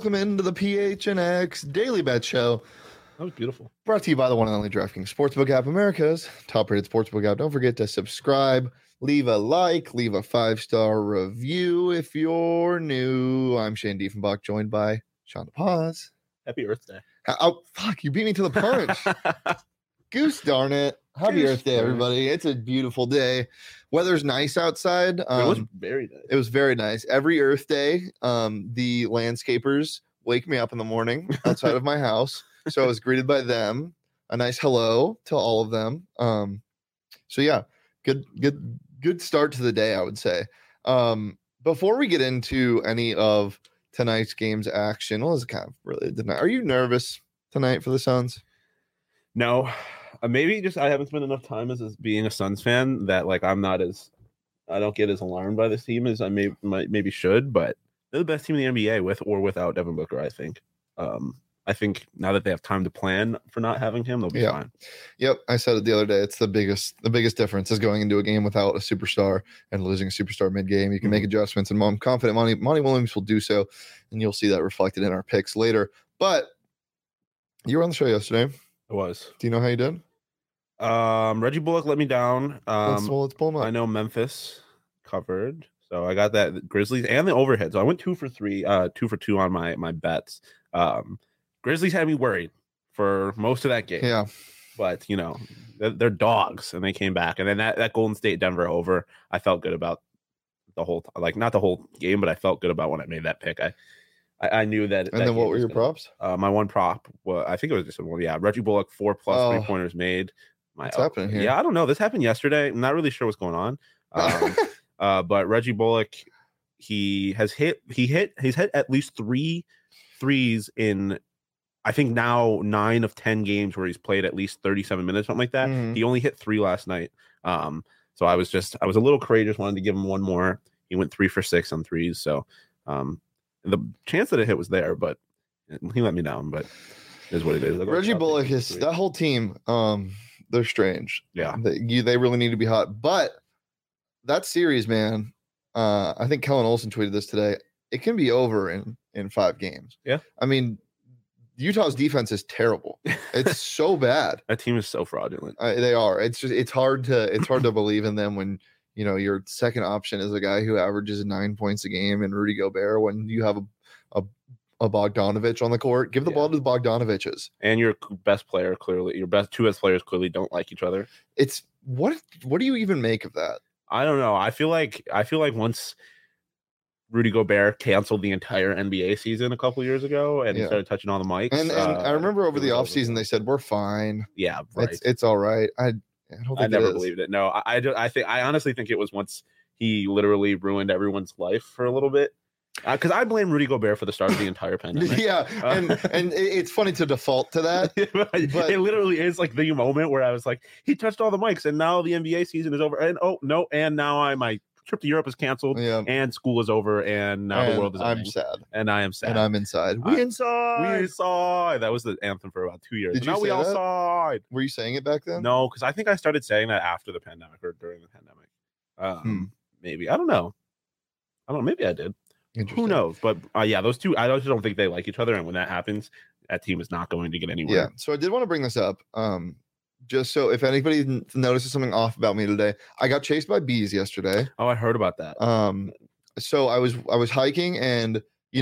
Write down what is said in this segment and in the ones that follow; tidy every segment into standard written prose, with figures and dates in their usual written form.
welcome into the PHNX Daily Bet Show. That was beautiful. Brought to you by the one and only DraftKings Sportsbook app, America's top-rated sportsbook app. Don't forget to subscribe, leave a like, leave a 5-star review if you're new. I'm Shane Diefenbach, joined by Sean DePaz. Happy Earth Day. Oh, fuck, you beat me to the punch. Goose darn it. Happy Earth Day, everybody. It's a beautiful day. Weather's nice outside. It was very nice. It was very nice. Every Earth Day, the landscapers wake me up in the morning outside of my house. So I was greeted by them. A nice hello to all of them. So yeah, good start to the day, I would say. Before we get into any of tonight's game's action, well, it's kind of really tonight. Are you nervous tonight for the Suns? No. Maybe just I haven't spent enough time as being a Suns fan that like I don't get as alarmed by this team as I maybe should, but they're the best team in the NBA with or without Devin Booker, I think. I think now that they have time to plan for not having him, they'll be fine. Yep, I said it the other day. It's the biggest difference is going into a game without a superstar and losing a superstar mid-game. You can make adjustments, and I'm confident Monty Williams will do so, and you'll see that reflected in our picks later. But you were on the show yesterday. I was. Do you know how you did? Reggie Bullock let me down. Let's pull him up. I know Memphis covered, so I got that Grizzlies and the overhead. So I went 2 for 2 on my bets. Grizzlies had me worried for most of that game. Yeah, but you know they're dogs, and they came back. And then that Golden State Denver over, I felt good about the whole not the whole game, but I felt good about when I made that pick. I knew that. And then what were your props? My one prop, I think it was just one. Yeah, Reggie Bullock 4+ 3-pointers made. What's happening here? Yeah, I don't know. This happened yesterday. I'm not really sure what's going on. But Reggie Bullock, he's hit at least 3 threes in, I think now 9 of 10 games where he's played at least 37 minutes, something like that. Mm-hmm. He only hit 3 last night. So I was a little courageous, wanted to give him one more. He went 3 for 6 on threes. So the chance that it hit was there, but he let me down. But it is what it is. Reggie Bullock is that whole team. They're strange. Yeah, they really need to be hot. But that series, man, I think Kellen Olson tweeted this today. It can be over in 5 games. Yeah, I mean, Utah's defense is terrible. It's so bad. That team is so fraudulent. They are. It's hard to believe in them when you know your second option is a guy who averages 9 points a game and Rudy Gobert when you have a Bogdanovich on the court. Give the ball to the Bogdanoviches. And your best player your two best players clearly don't like each other. It's what do you even make of that? I don't know. I feel like once Rudy Gobert canceled the entire NBA season a couple years ago and he started touching all the mics. And I remember over the offseason they said we're fine. Yeah, right. It's all right. I don't think I never believed it. No, I honestly think it was once he literally ruined everyone's life for a little bit. Because I blame Rudy Gobert for the start of the entire pandemic. Yeah, and it's funny to default to that. But it literally is like the moment where I was like, he touched all the mics, and now the NBA season is over. And and now my trip to Europe is canceled, and school is over, and now the world is ending. I'm sad. And I am sad. And I'm inside. We inside. That was the anthem for about 2 years. Did you now say we all that? side. Were you saying it back then? No, because I think I started saying that after the pandemic or during the pandemic. Maybe. I don't know. Maybe I did. Who knows? But those two, I just don't think they like each other. And when that happens, that team is not going to get anywhere. Yeah. So I did want to bring this up. Just so if anybody notices something off about me today, I got chased by bees yesterday. Oh, I heard about that. So I was hiking and,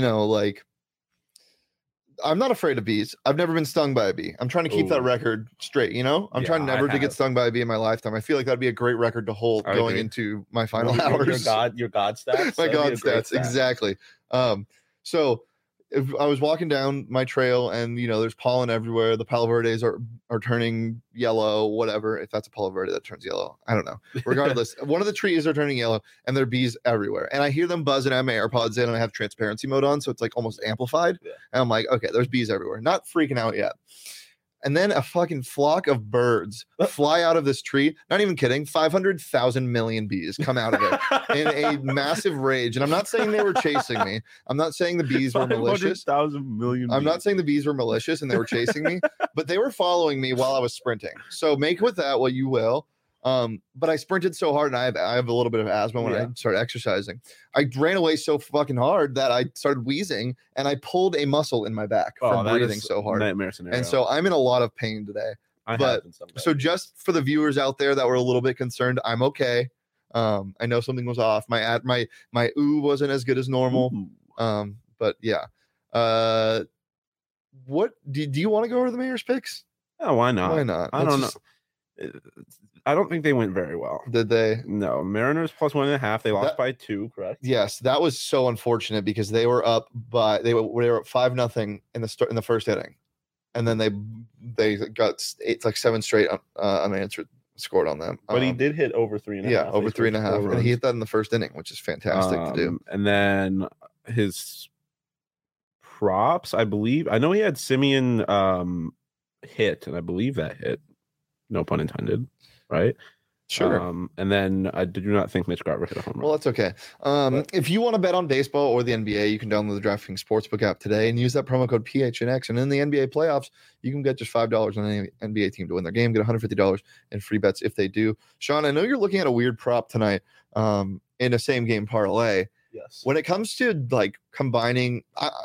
I'm not afraid of bees. I've never been stung by a bee. I'm trying to keep that record straight, I'm trying never to get stung by a bee in my lifetime. I feel like that'd be a great record to hold going into my final hours. Your God stats. My God stats, exactly. So if I was walking down my trail and there's pollen everywhere. The Palo Verdes are turning yellow, whatever. If that's a Palo Verde that turns yellow, I don't know. Regardless, one of the trees are turning yellow and there are bees everywhere. And I hear them buzzing. I have my AirPods in and I have transparency mode on, so it's like almost amplified. Yeah. And I'm like, okay, there's bees everywhere. Not freaking out yet. And then a fucking flock of birds fly out of this tree. Not even kidding. 500,000 million bees come out of it in a massive rage. And I'm not saying they were chasing me. I'm not saying the bees were malicious. 500,000 million. I'm not saying the bees were malicious and they were chasing me, but they were following me while I was sprinting. So make with that what you will. But I sprinted so hard, and I have a little bit of asthma when I started exercising. I ran away so fucking hard that I started wheezing, and I pulled a muscle in my back from breathing so hard. Nightmare scenario. And so I'm in a lot of pain today. So just for the viewers out there that were a little bit concerned, I'm okay. I know something was off. My ooh wasn't as good as normal. But yeah. What do you want to go over the mayor's picks? Oh, why not? Why not? I don't know. I don't think they went very well. Did they? No, Mariners plus 1.5. They lost by 2, correct? Yes, that was so unfortunate because they were up by they were up 5-0 in the first inning, and then they got 7 straight unanswered scored on them. But he did hit over 3.5. Yeah, over 3.5, and he hit that in the first inning, which is fantastic to do. And then his props, I believe. I know he had Simeon hit, and I believe that hit. No pun intended, right? Sure. And then I do not think Mitch Garver hit a home run. Well, that's okay. If you want to bet on baseball or the NBA, you can download the DraftKings Sportsbook app today and use that promo code PHNX. And in the NBA playoffs, you can get just $5 on any NBA team to win their game. Get $150 in free bets if they do. Sean, I know you're looking at a weird prop tonight in a same game parlay. Yes. When it comes to like combining,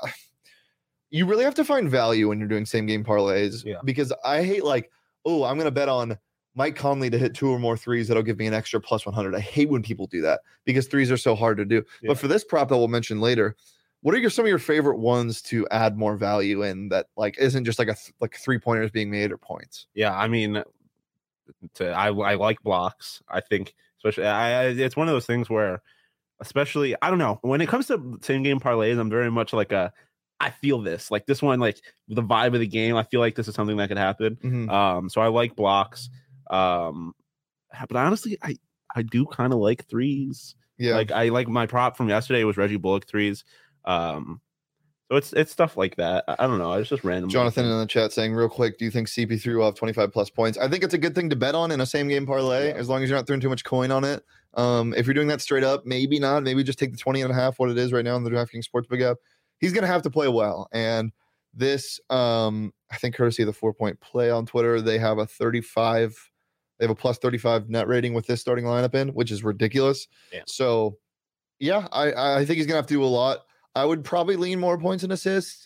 you really have to find value when you're doing same game parlays. Yeah. Because I hate like, oh, I'm going to bet on Mike Conley to hit 2 or more threes. That'll give me an extra plus 100. I hate when people do that because threes are so hard to do. Yeah. But for this prop that we'll mention later, what are some of your favorite ones to add more value in that like isn't just like like 3-pointers being made or points? Yeah, I mean, I like blocks. I think especially it's one of those things where, especially I don't know, when it comes to same game parlays, I'm very much like I feel this like this one, like the vibe of the game. I feel like this is something that could happen. Mm-hmm. So I like blocks. But honestly, I do kind of like threes. Yeah. Like I like my prop from yesterday was Reggie Bullock threes. So it's stuff like that. I don't know. It's just random. Jonathan in the chat saying real quick, do you think CP3 will have 25 plus points? I think it's a good thing to bet on in a same game parlay, as long as you're not throwing too much coin on it. If you're doing that straight up, maybe not. Maybe just take the 20.5, what it is right now in the DraftKings Sportsbook app. He's going to have to play well. And this, I think courtesy of the 4-Point Play on Twitter, they have a plus 35 net rating with this starting lineup in, which is ridiculous. Yeah. So, yeah, I think he's going to have to do a lot. I would probably lean more points and assists.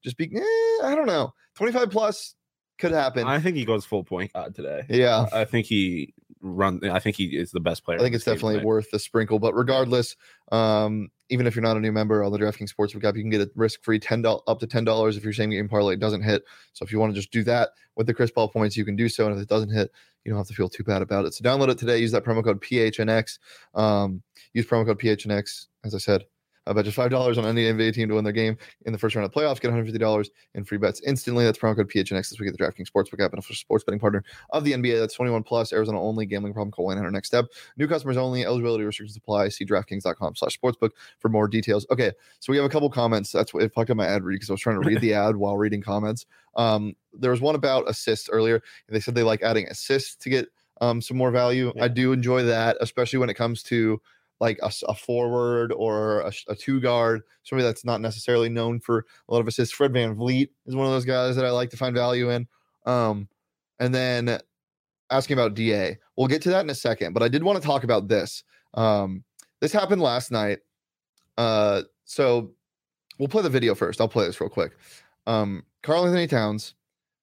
I don't know. 25 plus could happen. I think he goes full point guard today. Yeah. I think he is the best player. I think it's definitely worth the sprinkle. But regardless, even if you're not a new member on the DraftKings Sportsbook app, you can get a risk-free up to $10 if your same game parlay doesn't hit. So if you want to just do that with the Chris Paul points, you can do so. And if it doesn't hit, you don't have to feel too bad about it. So download it today. Use that promo code PHNX. Use promo code PHNX, as I said. I bet you $5 on any NBA team to win their game in the first round of playoffs. Get $150 in free bets instantly. That's promo code PHNX this week at the DraftKings Sportsbook app and official sports betting partner of the NBA. That's 21 plus, Arizona only. Gambling problem? Call 1-800-NEXT STEP. New customers only. Eligibility restrictions apply. See DraftKings.com/sportsbook for more details. Okay, so we have a couple comments. That's what it fucked up my ad read because I was trying to read the ad while reading comments. There was one about assists earlier. They said they like adding assists to get some more value. Yeah. I do enjoy that, especially when it comes to like a forward or a 2-guard, somebody that's not necessarily known for a lot of assists. Fred VanVleet is one of those guys that I like to find value in. And then asking about DA. We'll get to that in a second, but I did want to talk about this. This happened last night. So we'll play the video first. I'll play this real quick. Karl-Anthony Towns,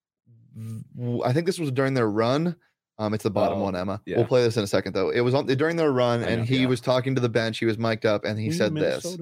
I think this was during their run. It's the bottom one, Emma. Yeah. We'll play this in a second, though. It was during their run, and he was talking to the bench. He was mic'd up, and he said this.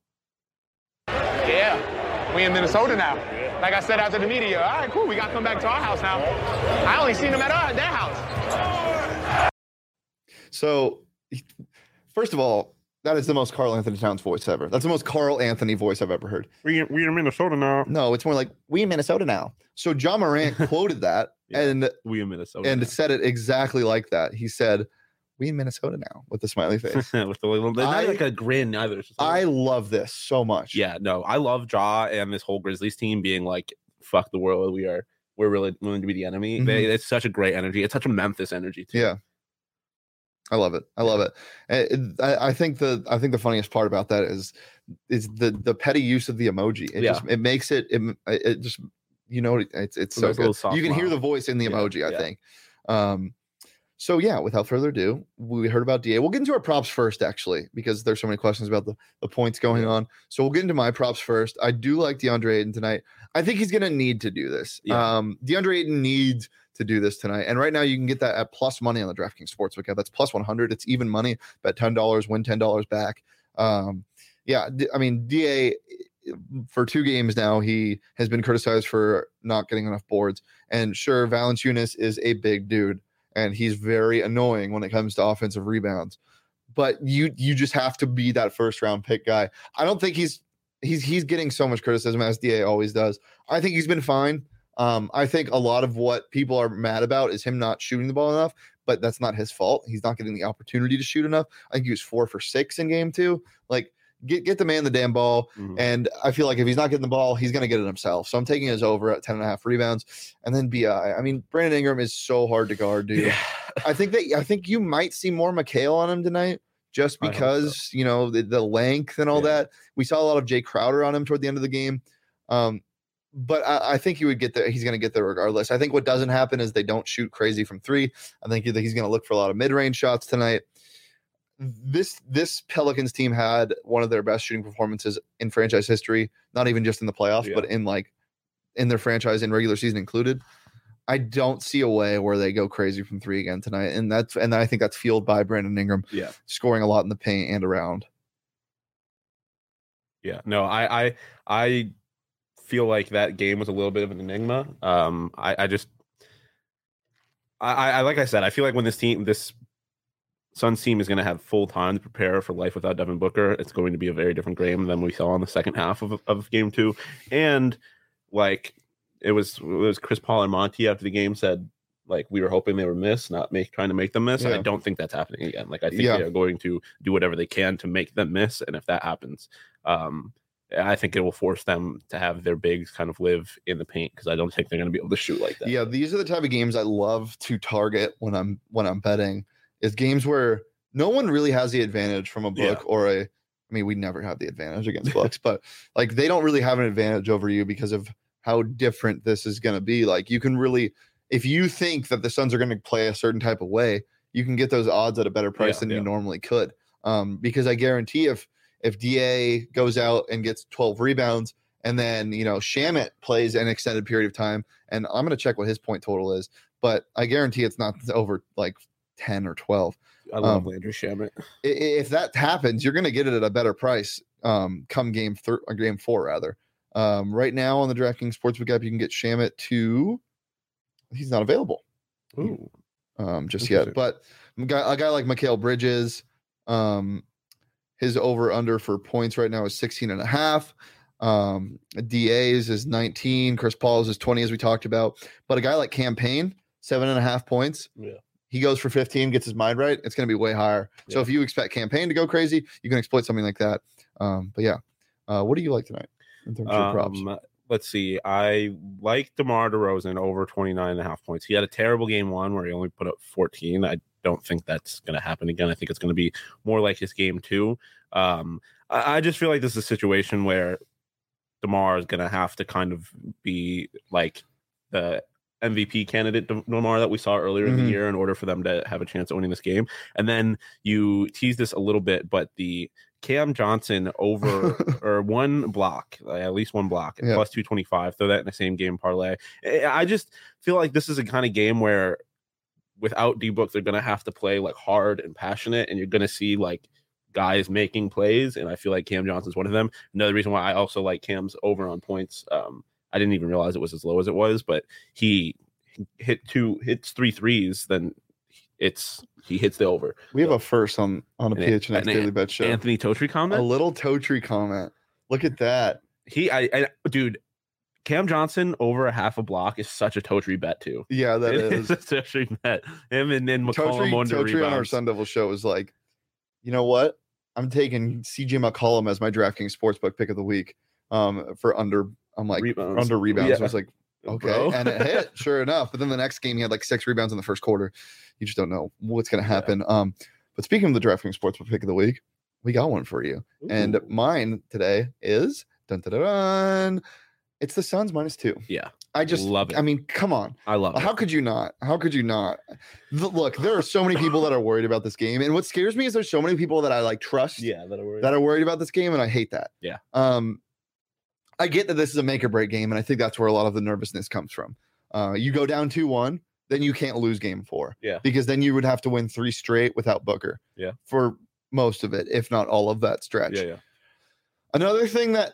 Yeah, we in Minnesota now. Like I said after the media, all right, cool. We got to come back to our house now. I only seen them at their house. So, first of all, that is the most Karl-Anthony Towns voice ever. That's the most Carl Anthony voice I've ever heard. We in Minnesota now. No, it's more like, we in Minnesota now. So John Morant quoted that, and we in Minnesota and now. Said it exactly like that. He said, we in Minnesota now, with the smiley face. With the little, not like a grin either. I love this so much. Yeah, no, I love Ja and this whole Grizzlies team being like, fuck the world. We're really willing to be the enemy. Mm-hmm. It's such a great energy. It's such a Memphis energy too. Yeah. I love it. I love it. I think the funniest part about that is the petty use of the emoji. It makes it just, you know, it's so good. You can hear the voice in the emoji, I think. So yeah, without further ado, we heard about DA. We'll get into our props first, actually, because there's so many questions about the points going on. So we'll get into my props first. I do like DeAndre Ayton tonight. I think he's going to need to do this. Yeah. DeAndre Ayton needs to do this tonight. And right now you can get that at plus money on the DraftKings Sportsbook app. That's plus 100. It's even money. Bet $10, win $10 back. Yeah, I mean, DA for 2 games now, he has been criticized for not getting enough boards. And sure, Valanciunas is a big dude, and he's very annoying when it comes to offensive rebounds. But you just have to be that first round pick guy. I don't think he's getting so much criticism as DA always does. I think he's been fine. I think a lot of what people are mad about is him not shooting the ball enough, but that's not his fault. He's not getting the opportunity to shoot enough. I think he was 4 for 6 in game 2. Like, get the man the damn ball. Mhm. And I feel like if he's not getting the ball, he's going to get it himself. So I'm taking his over at 10.5 rebounds. And then BI. I mean, Brandon Ingram is so hard to guard, dude. Yeah. I think you might see more Mikal on him tonight, just I hope because, you know, the length and all that. We saw a lot of Jay Crowder on him toward the end of the game. But I think he would get there. He's going to get there regardless. I think what doesn't happen is they don't shoot crazy from 3. I think he's going to look for a lot of mid-range shots tonight. This Pelicans team had one of their best shooting performances in franchise history, not even just in the playoffs, but in their franchise in regular season included. I don't see a way where they go crazy from 3 again tonight. And I think that's fueled by Brandon Ingram scoring a lot in the paint and around. Yeah, no, I feel like that game was a little bit of an enigma. Like I said, I feel like when this Suns team is going to have full time to prepare for life without Devin Booker, it's going to be a very different game than we saw in the second half of game 2. And like it was Chris Paul and Monty after the game said, like, we were hoping they were miss, trying to make them miss. And I don't think that's happening again. Like, I think they are going to do whatever they can to make them miss. And if that happens, I think it will force them to have their bigs kind of live in the paint, because I don't think they're going to be able to shoot like that. Yeah, these are the type of games I love to target when I'm betting. Is games where no one really has the advantage from a book or I mean, we never have the advantage against books, but like they don't really have an advantage over you because of how different this is going to be. Like you can really, if you think that the Suns are going to play a certain type of way, you can get those odds at a better price than you normally could. Because I guarantee if DA goes out and gets 12 rebounds and then, you know, Shamet plays an extended period of time, and I'm going to check what his point total is, but I guarantee it's not over like 10 or 12. I love Landry Shamet. If that happens, you're going to get it at a better price come game 4 rather. Right now on the DraftKings Sportsbook app, you can get Shamet to, he's not available. Ooh. Just yet. But a guy like Mikal Bridges, his over under for points right now is 16.5. DA's is 19. Chris Paul's is 20, as we talked about. But a guy like Campaign, 7.5 points. Yeah. He goes for 15, gets his mind right. It's going to be way higher. Yeah. So if you expect Campaign to go crazy, you can exploit something like that. But yeah, what do you like tonight in terms of props? Let's see. I like DeMar DeRozan over 29.5 points. He had a terrible game 1 where he only put up 14. I don't think that's going to happen again. I think it's going to be more like his game 2. I just feel like this is a situation where DeMar is going to have to kind of be like the MVP candidate DeMar that we saw earlier in the year in order for them to have a chance of winning this game. And then you tease this a little bit, but the Cam Johnson over or one block, at least one block, plus 225, throw that in the same game parlay. I just feel like this is a kind of game where without D-Book, they're going to have to play like hard and passionate, and you're going to see like guys making plays. And I feel like Cam Johnson's one of them. Another reason why I also like Cam's over on points. I didn't even realize it was as low as it was, but he hits 3 threes, then he hits the over. We have a first on a PHNX Daily Bet show. Anthony Totri comment? A little Totri comment. Look at that. Dude, Cam Johnson over a half a block is such a Totri bet too. Yeah, that is. It's a Totri bet. Him and then McCollum under Totri rebounds. On our Sun Devil show was like, you know what? I'm taking CJ McCollum as my DraftKings Sportsbook pick of the week for under. I'm like under rebounds. Yeah. So I was like, okay, bro. And it hit, sure enough. But then the next game, he had like 6 rebounds in the first quarter. You just don't know what's going to happen. Yeah. But speaking of the DraftKings Sportsbook pick of the week, we got one for you. Ooh. And mine today is dun, dun, dun, dun, it's the Suns -2. Yeah. I just love it. I mean, come on. I love it. How could you not? How could you not? Look, there are so many people that are worried about this game, and what scares me is there's so many people that I like trust. Yeah, that are worried about this game, and I hate that. Yeah. I get that this is a make or break game, and I think that's where a lot of the nervousness comes from. You go down 2-1, then you can't lose game 4. Yeah. Because then you would have to win 3 straight without Booker. Yeah. For most of it, if not all of that stretch. Yeah. Another thing that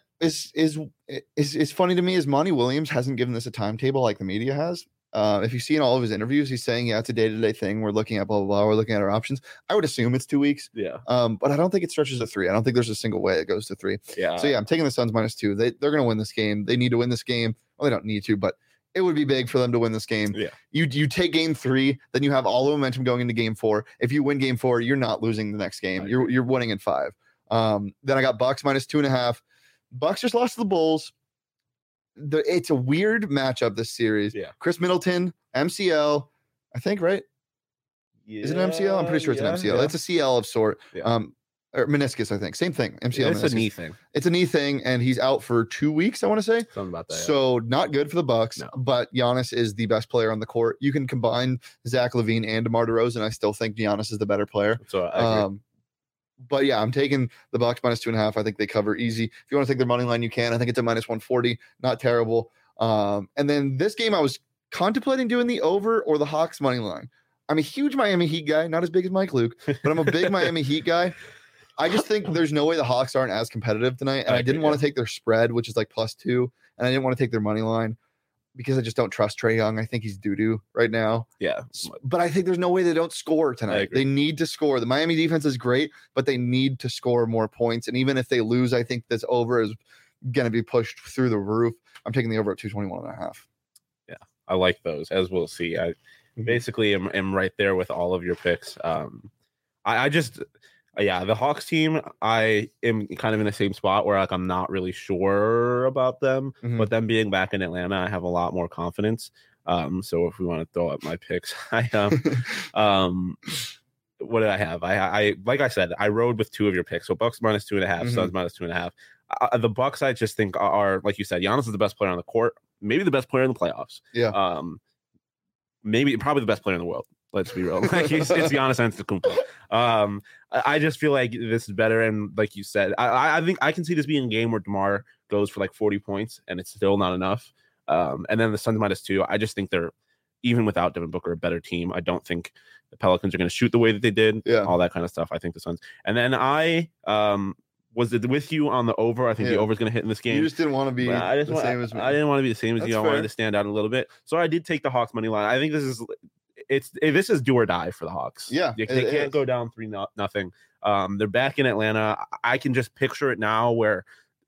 is funny to me is Monty Williams hasn't given this a timetable like the media has. If you see in all of his interviews, he's saying, yeah, it's a day-to-day thing. We're looking at blah, blah, blah. We're looking at our options. I would assume it's 2 weeks. Yeah. But I don't think it stretches to 3. I don't think there's a single way it goes to 3. Yeah. So yeah, I'm taking the Suns -2. They're going to win this game. They need to win this game. Well, they don't need to, but it would be big for them to win this game. Yeah. You take game 3, then you have all the momentum going into game 4. If you win game 4, you're not losing the next game. You're winning in 5. Then I got Bucks -2.5. Bucks just lost to the Bulls. It's a weird matchup this series. Yeah. Chris Middleton, MCL, I think, right? Yeah. Is it an MCL? I'm pretty sure it's an MCL. Yeah. It's a CL of sort. Yeah. Or meniscus, I think. Same thing. MCL. It's meniscus. a knee thing. It's a knee thing, and he's out for 2 weeks, I want to say. Something about that. So not good for the Bucks, No. but Giannis is the best player on the court. You can combine Zach LaVine and DeMar DeRozan. I still think Giannis is the better player. So I agree. But yeah, I'm taking the Bucks -2.5. I think they cover easy. If you want to take their money line, you can. I think it's a -140. Not terrible. And then this game, I was contemplating doing the over or the Hawks money line. I'm a huge Miami Heat guy, not as big as Mike Luke, but I'm a big Miami Heat guy. I just think there's no way the Hawks aren't as competitive tonight. And I didn't want to take their spread, which is like +2. And I didn't want to take their money line because I just don't trust Trae Young. I think he's doo-doo right now. Yeah. But I think there's no way they don't score tonight. They need to score. The Miami defense is great, but they need to score more points. And even if they lose, I think this over is going to be pushed through the roof. I'm taking the over at 221.5. Yeah, I like those, as we'll see. I basically am right there with all of your picks. I just the Hawks team, I am kind of in the same spot where like I'm not really sure about them, but them being back in Atlanta, I have a lot more confidence. So if we want to throw up my picks, what did I have? I like I said, I rode with 2 of your picks. So Bucks -2.5, Suns -2.5. The Bucks, I just think are, like you said, Giannis is the best player on the court, maybe the best player in the playoffs. Yeah. Probably the best player in the world. Let's be real. Like it's Giannis Antetokounmpo. I just feel like this is better, and like you said, I think I can see this being a game where DeMar goes for like 40 points, and it's still not enough. And then the Suns -2. I just think they're, even without Devin Booker, a better team. I don't think the Pelicans are going to shoot the way that they did. Yeah. All that kind of stuff. I think the Suns. And then I was it with you on the over. I think the over is going to hit in this game. You just didn't want to be the same as me. I didn't want to be the same as That's you. I fair. wanted to stand out a little bit. So I did take the Hawks money line. I think this is do or die for the Hawks. Yeah, they can't go down 3-0. They're back in Atlanta. I can just picture it now where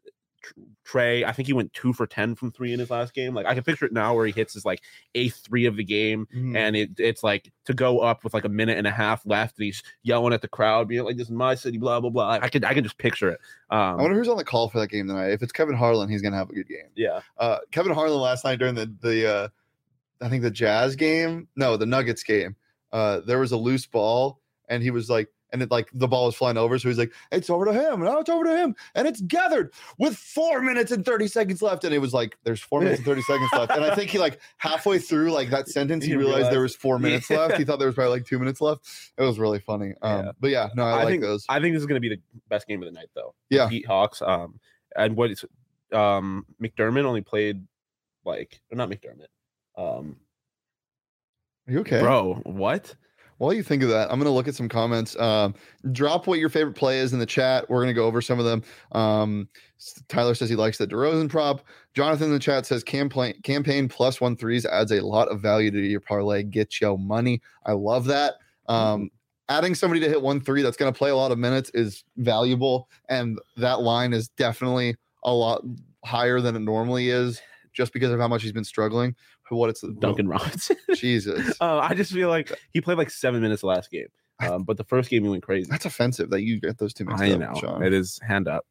Trae, I think he went 2 for 10 from 3 in his last game. Like I can picture it now where he hits his like 8th 3 of the game, and it's like to go up with like a minute and a half left, and he's yelling at the crowd, being like, "This is my city," blah blah blah. I can just picture it. I wonder who's on the call for that game tonight. If it's Kevin Harlan, he's gonna have a good game. Yeah. Kevin Harlan last night during the I think the Jazz game, no, the Nuggets game. There was a loose ball, and he was like. And it like the ball was flying over, so he's like, "It's over to him, now it's over to him, and it's gathered with 4 minutes and 30 seconds left." And it was like, "There's 4 minutes and 30 seconds left." And I think he like halfway through like that sentence, he realized there was 4 minutes left. He thought there was probably like 2 minutes left. It was really funny. But yeah, no, I like think those. I think this is going to be the best game of the night, though. Yeah, Heat Hawks. And what is McDermott only played like, or not McDermott. Are you okay, bro? What? While you think of that, I'm going to look at some comments. Drop what your favorite play is in the chat. We're going to go over some of them. Tyler says he likes the DeRozan prop. Jonathan in the chat says campaign +1/3s adds a lot of value to your parlay. Get your money. I love that. Adding somebody to hit 1-3 that's going to play a lot of minutes is valuable. And that line is definitely a lot higher than it normally is just because of how much he's been struggling. What it's Duncan Robinson. Jesus. I just feel like he played like 7 minutes last game. But the first game he went crazy. That's offensive that you get those 2 minutes. I know. Sean. It is hand up.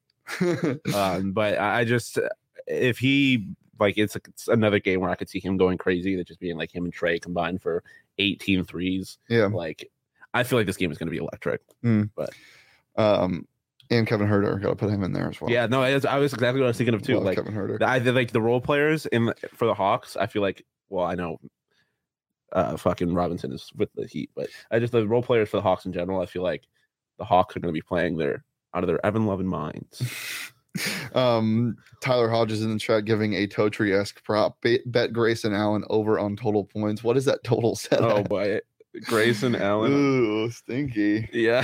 But I just, if he like, it's another game where I could see him going crazy. That just being like him and Trae combined for 18 threes. Yeah. Like, I feel like this game is going to be electric. But And Kevin Huerter, got to put him in there as well. Yeah, no, I was exactly what I was thinking of too. Love Like Kevin Huerter. like the role players for the Hawks. I feel like, well, I know, fucking Robinson is with the Heat, but the role players for the Hawks in general. I feel like the Hawks are going to be playing out of their Evan Lovin minds. Tyler Hodges in the chat giving a Totri-esque prop. Bet Grayson Allen over on total points. What is that total set? Oh boy, Grayson Allen. Ooh, stinky. Yeah.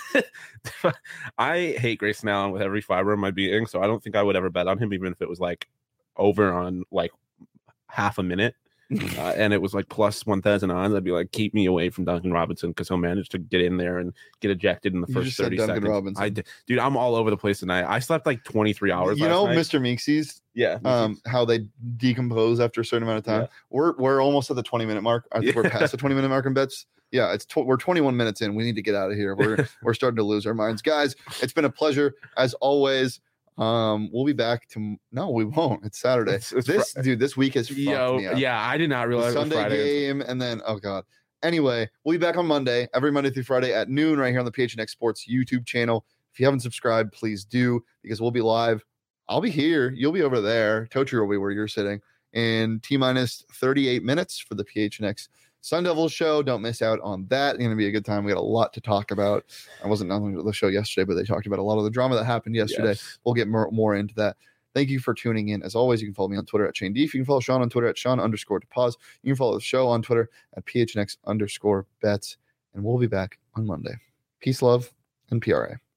I hate Grayson Allen with every fiber of my being, so I don't think I would ever bet on him, even if it was like over on like half a minute. And it was like plus 1,000 odds. I'd be like, keep me away from Duncan Robinson because he'll manage to get in there and get ejected in the first 30 seconds. Robinson. Dude, I'm all over the place tonight. I slept like 23 hours. You know, night. Mr. Meeksies. Yeah. How they decompose after a certain amount of time. Yeah. We're almost at the 20-minute mark. I think we're past the 20-minute mark in bets. Yeah, we're 21 minutes in. We need to get out of here. We're starting to lose our minds, guys. It's been a pleasure as always. We'll be back to. No, we won't. It's Saturday. This week is fucked me up. Yeah, I did not realize the Sunday it was Friday game, and then oh god. Anyway, we'll be back on Monday, every Monday through Friday at noon, right here on the PHNX Sports YouTube channel. If you haven't subscribed, please do, because we'll be live. I'll be here. You'll be over there. Totri will be where you're sitting. In T-minus 38 minutes for the PHNX Sun Devils show. Don't miss out on that. It's going to be a good time. We got a lot to talk about. I wasn't on the show yesterday, but they talked about a lot of the drama that happened yesterday. Yes. We'll get more into that. Thank you for tuning in. As always, you can follow me on Twitter at Shane Deef. You can follow Sean on Twitter at Sean_DePause. You can follow the show on Twitter at PHNX_bets. And we'll be back on Monday. Peace, love, and PRA.